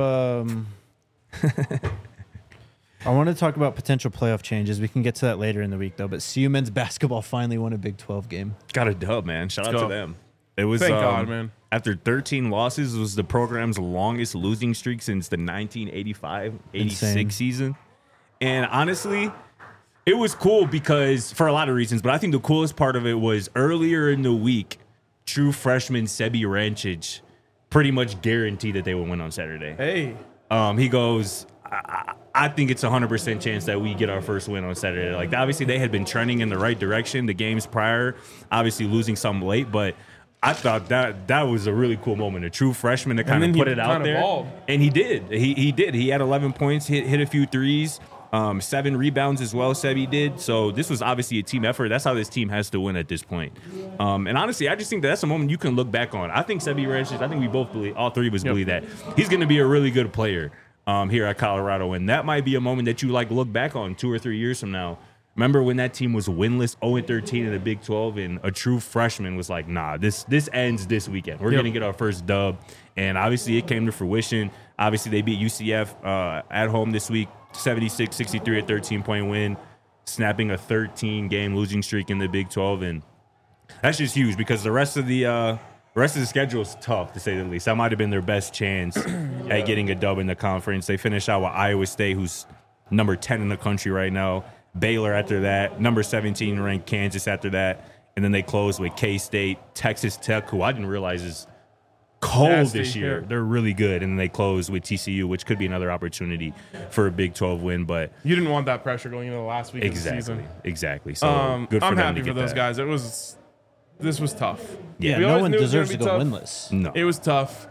I want to talk about potential playoff changes. We can get to that later in the week, though. But CU men's basketball finally won a Big 12 game. Got a dub, man. Shout out go. to them. It was Thank God, man. After 13 losses, it was the program's longest losing streak since the 1985-86 Insane. season. And honestly, it was cool because for a lot of reasons, but I think the coolest part of it was earlier in the week, true freshman Sebi Rancic pretty much guaranteed that they would win on Saturday. Hey. He goes, I think it's a 100% chance that we get our first win on Saturday. Like, obviously, they had been trending in the right direction the games prior, obviously losing some late, but I thought that was a really cool moment. A true freshman to kind of put it out there. Balled. And he did. He did. He had 11 points, hit a few threes, 7 rebounds as well, Sebi did. So this was obviously a team effort. That's how this team has to win at this point. And honestly, I just think that's a moment you can look back on. I think Sebi Rancic, I think we both believe, all three of us believe that he's going to be a really good player here at Colorado. And that might be a moment that you like look back on 2 or 3 years from now. Remember when that team was winless, 0-13 in the Big 12, and a true freshman was like, nah, this ends this weekend. We're going to get our first dub. And obviously it came to fruition. Obviously they beat UCF at home this week, 76-63, a 13-point win, snapping a 13-game losing streak in the Big 12. And that's just huge because the rest of the schedule is tough, to say the least. That might have been their best chance at getting a dub in the conference. They finish out with Iowa State, who's number 10 in the country right now. Baylor after that, number 17 ranked Kansas after that, and then they close with K-State, Texas Tech, who I didn't realize is cold Nasty, this year. yeah. They're really good, and then they close with TCU, which could be another opportunity for a Big 12 win. But You didn't want that pressure going into the last week of the season. exactly. So good for I'm them happy to for get those that. guys. This was tough. Yeah, We no always one knew it was deserves to gonna go be tough. winless. No, It was tough.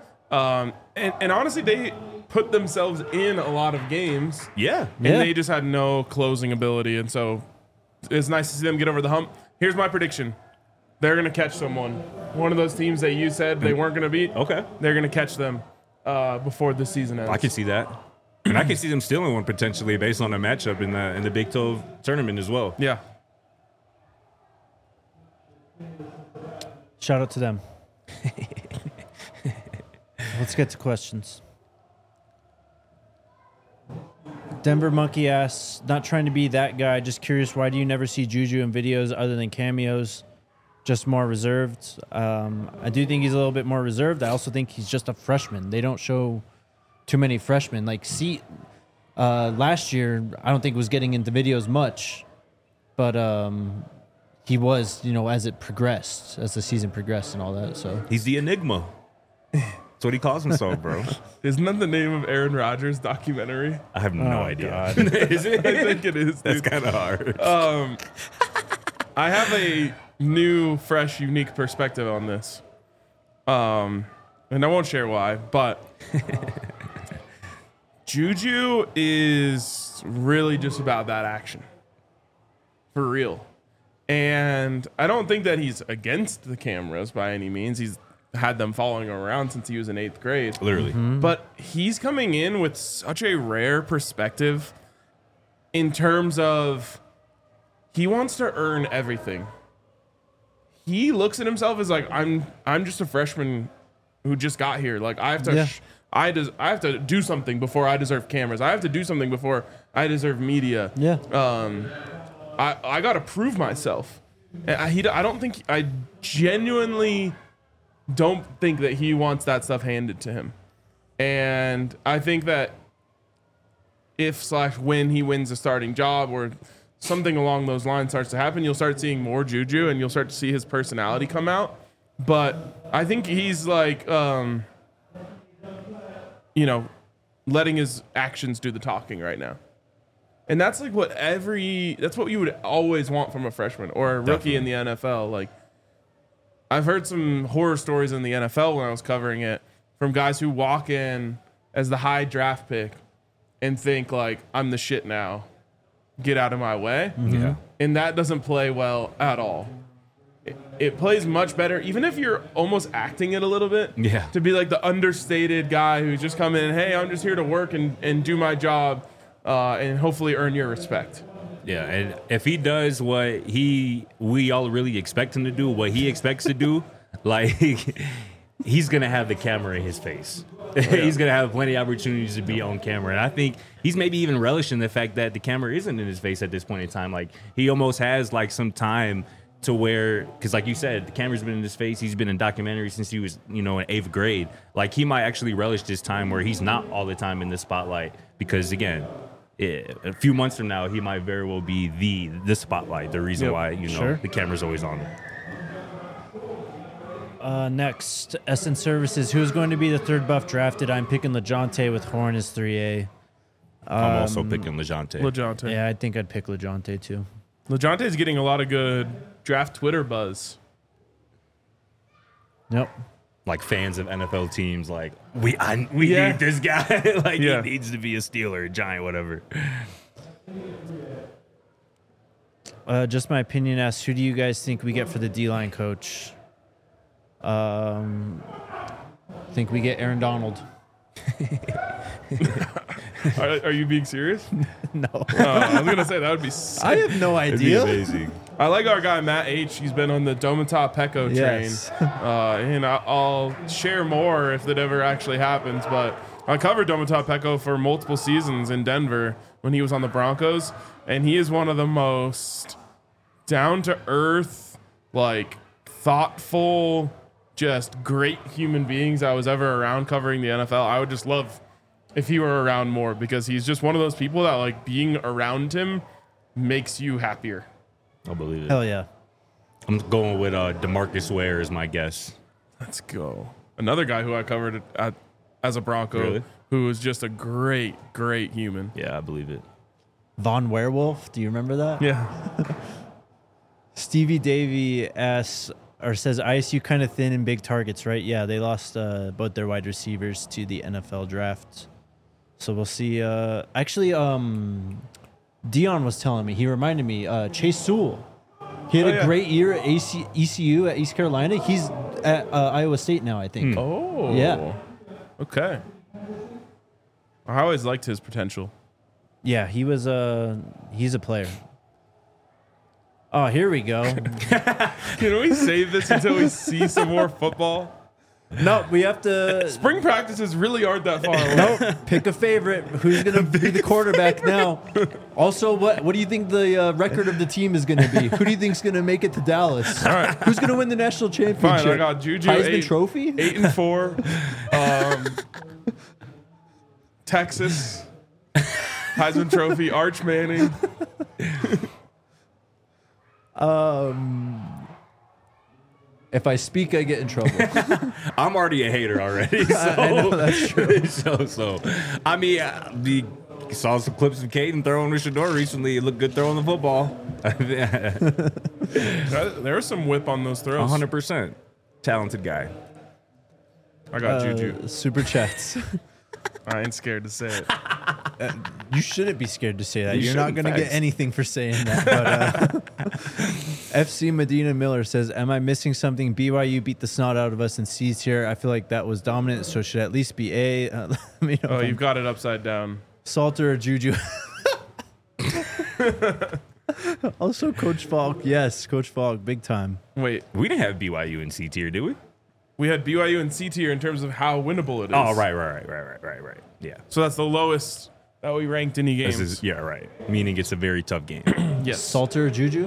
And honestly, they put themselves in a lot of games, yeah, and Yeah. they just had no closing ability. And so it's nice to see them get over the hump. Here's my prediction. They're going to catch someone. One of those teams that you said they weren't going to beat, okay. they're going to catch them before the season ends. I can see that, and I can see them stealing one potentially based on a matchup in the Big 12 tournament as well. Yeah. Shout out to them. Let's get to questions. Denver Monkey asks, not trying to be that guy, just curious, why do you never see Juju in videos other than cameos? Just more reserved. I do think he's a little bit more reserved. I also think he's just a freshman. They don't show too many freshmen. Like, last year, I don't think was getting into videos much, but he was, as it progressed, as the season progressed and all that. So He's the enigma. That's what he calls himself, bro. Isn't that the name of Aaron Rodgers' documentary? I have no Oh, idea. God. Is it? I think it is. That's Dude. kind of hard. I have a new, fresh, unique perspective on this. And I won't share why, but Juju is really just about that action. For real. And I don't think that he's against the cameras by any means. He's had them following him around since he was in 8th grade. Literally. But he's coming in with such a rare perspective in terms of he wants to earn everything. He looks at himself as like, I'm just a freshman who just got here. Like, I have to Yeah. I have to do something before I deserve cameras. I have to do something before I deserve media. yeah, I got to prove myself. And I genuinely don't think that he wants that stuff handed to him. And I think that when he wins a starting job or something along those lines starts to happen, you'll start seeing more Juju and you'll start to see his personality come out. But I think he's like, letting his actions do the talking right now. And that's like that's what you would always want from a freshman or a rookie in the NFL. Like, I've heard some horror stories in the NFL when I was covering it from guys who walk in as the high draft pick and think like, I'm the shit now. Get out of my way. Yeah. And that doesn't play well at all. It plays much better, even if you're almost acting it a little bit. Yeah. To be like the understated guy who's just come in, hey, I'm just here to work and do my job and hopefully earn your respect. Yeah, and if he does what we all really expect him to do, what he expects to do, like he's gonna have the camera in his face. He's gonna have plenty of opportunities to be on camera, and I think he's maybe even relishing the fact that the camera isn't in his face at this point in time. Like he almost has like some time to where, because like you said, the camera's been in his face. He's been in documentaries since he was, in 8th grade. Like he might actually relish this time where he's not all the time in the spotlight, because again, a few months from now, he might very well be the spotlight. The reason why Sure. the camera's always on him. Next, SN Services. Who's going to be the third buff drafted? I'm picking LeJohntay with Horn as 3A. I'm also picking LeJohntay. LeJohntay. Yeah, I think I'd pick LeJohntay too. LeJohntay's getting a lot of good draft Twitter buzz. Nope. Like fans of NFL teams, like we Yeah. need this guy. Like Yeah. he needs to be a Steeler, a Giant, whatever. Just my opinion asks, who do you guys think we get for the D-line coach? Think we get Aaron Donald. Are you being serious? No. I was gonna say that would be sick. I have no It'd be idea. amazing. I like our guy Matt H. He's been on the Domata Pecco train, Yes. and I'll share more if that ever actually happens. But I covered Domata Pecco for multiple seasons in Denver when he was on the Broncos, and he is one of the most down to earth, like thoughtful, just great human beings I was ever around covering the NFL. I would just love if he were around more, because he's just one of those people that like being around him makes you happier. I'll believe it. Hell yeah. I'm going with DeMarcus Ware as my guess. Let's go. Another guy who I covered as a Bronco, Really? who was just a great, great human. Yeah, I believe it. Von Werewolf. Do you remember that? Yeah. Stevie Davy asks or says ISU kind of thin in big targets, right? Yeah, they lost both their wide receivers to the NFL draft. So we'll see. Actually, Dion was telling me, he reminded me, Chase Sewell. He had a great year at ECU at East Carolina. He's at Iowa State now, I think. Oh. Yeah. Okay. I always liked his potential. Yeah, he's a player. Oh, here we go. Can we save this until we see some more football? No, we have to. Spring practices really aren't that far away. No, pick a favorite. Who's going to be the quarterback now? Also, what do you think the record of the team is going to be? Who do you think is going to make it to Dallas? All right. Who's going to win the national championship? Fine, I got Juju Heisman Trophy? 8-4. Texas. Heisman Trophy. Arch Manning. If I speak, I get in trouble. I'm already a hater already. So, I know, that's true. so I mean, we saw some clips of Caden throwing with Shador recently. It looked good throwing the football. There was some whip on those throws. 100%. Talented guy. I got Juju. Super chats. I ain't scared to say it. You shouldn't be scared to say that. You You're not shouldn't, going to get facts. anything for saying that. But FC Medina Miller says, "Am I missing something? BYU beat the snot out of us in C's here. I feel like that was dominant, so it should at least be A." Let me know Oh, if you've got it upside down. Salter or Juju. Also, Coach Falk. Yes, Coach Falk, big time. Wait, We didn't have BYU in C tier, did we? we had BYU and C tier in terms of how winnable it is. Oh, right. Yeah. So that's the lowest that we ranked any This games. is, yeah, right. Meaning it's a very tough game. Yes. Salter or Juju?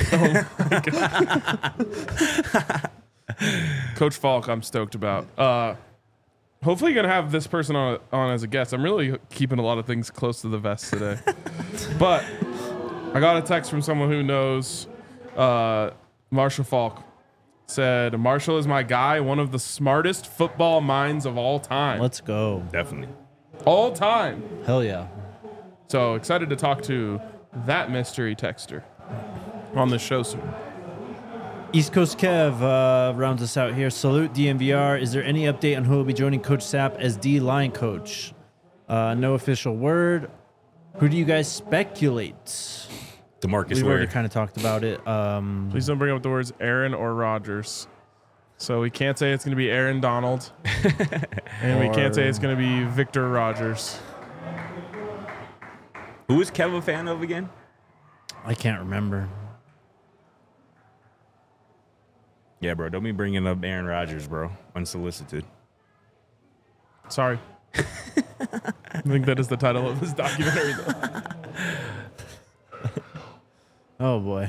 Coach Falk, I'm stoked about. Hopefully, you're gonna have this person on as a guest. I'm really keeping a lot of things close to the vest today. But I got a text from someone who knows Marshall Falk. Said, Marshall is my guy, one of the smartest football minds of all time. Let's go. Definitely. All time. Hell yeah. So excited to talk to that mystery texter on the show soon. East Coast Kev rounds us out here. Salute DMVR. Is there any update on who will be joining Coach Sapp as D-line coach? No official word. Who do you guys speculate? DeMarcus We've Ware. already kind of talked about it. Please don't bring up the words Aaron or Rogers. So we can't say it's going to be Aaron Donald. And we can't say it's going to be Victor Rogers. Who is Kev a fan of again? I can't remember. Yeah, bro. Don't be bringing up Aaron Rodgers, bro. Unsolicited. Sorry. I think that is the title of this documentary, though. Oh, boy.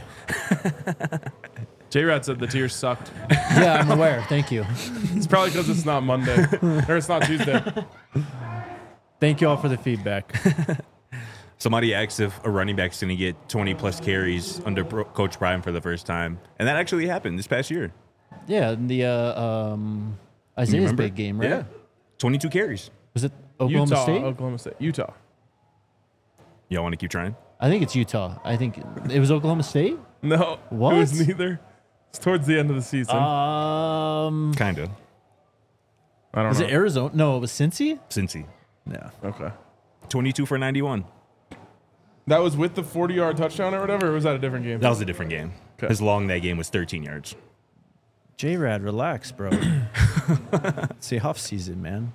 J-Rad said the tears sucked. Yeah, I'm aware. Thank you. It's probably because it's not Monday. Or it's not Tuesday. Thank you all for the feedback. Somebody asked if a running back's going to get 20-plus carries under Coach Prime for the first time. And that actually happened this past year. Yeah, in the Isaiah's remember? big game, right? Yeah. 22 carries. Was it Oklahoma State? Oklahoma State. Utah. Y'all want to keep trying? I think it's Utah. I think it was Oklahoma State. No. What? It was neither. It's towards the end of the season. Kind of. I don't Was know. it Arizona? No, it was Cincy. Cincy. Yeah. Okay. 22 for 91. That was with the 40-yard touchdown or whatever, or was that a different game? That was a different game. Okay. His long that game was 13 yards. J-Rad, relax, bro. It's the off season, man.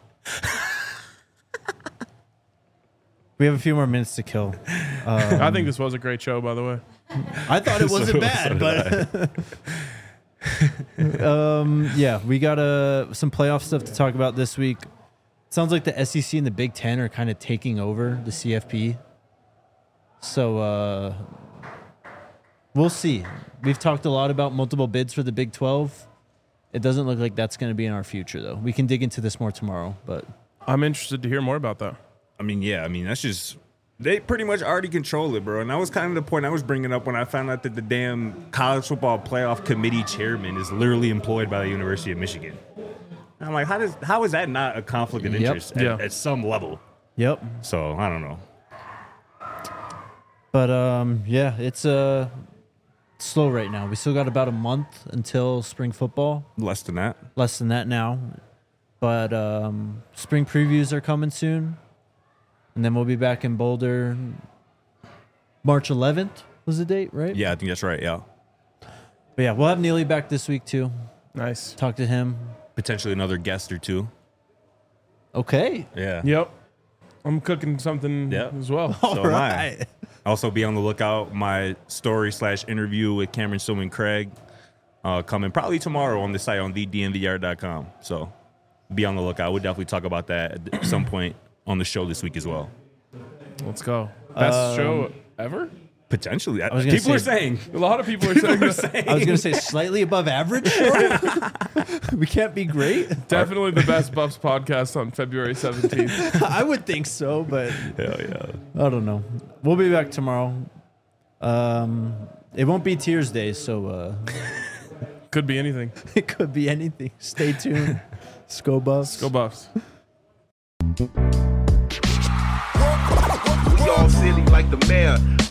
We have a few more minutes to kill. I think this was a great show, by the way. I thought it wasn't bad, but yeah, we got some playoff stuff to talk about this week. Sounds like the SEC and the Big Ten are kind of taking over the CFP. So we'll see. We've talked a lot about multiple bids for the Big 12. It doesn't look like that's going to be in our future, though. We can dig into this more tomorrow, but I'm interested to hear more about that. I mean, yeah. I mean, that's just... They pretty much already control it, bro. And that was kind of the point I was bringing up when I found out that the damn college football playoff committee chairman is literally employed by the University of Michigan. And I'm like, how is that not a conflict of Yep. interest at some level? yep. So, I don't know. But yeah, it's slow right now. We still got about a month until spring football. Less than that. Less than that now. But spring previews are coming soon. And then we'll be back in Boulder. March 11th was the date, right? Yeah, I think that's right, yeah. But yeah, we'll have Neely back this week too. Nice. Talk to him. Potentially another guest or two. Okay. Yeah. Yep. I'm cooking something Yep. as well. So am I. Also, be on the lookout. My story/interview with Cameron Stillman Craig coming probably tomorrow on the site on thednvr.com. So be on the lookout. We'll definitely talk about that at some point on the show this week as well. Let's go. Best show ever? Potentially. was gonna People are say- saying. A lot of people are saying that. I was going to say slightly above average. We can't be great. Definitely the best Buffs podcast on February 17th. I would think so, but Hell yeah. I don't know. We'll be back tomorrow. It won't be Tears Day, so Could be anything. it could be anything. Stay tuned. Sco Buffs. Go Buffs. We all silly like the mayor.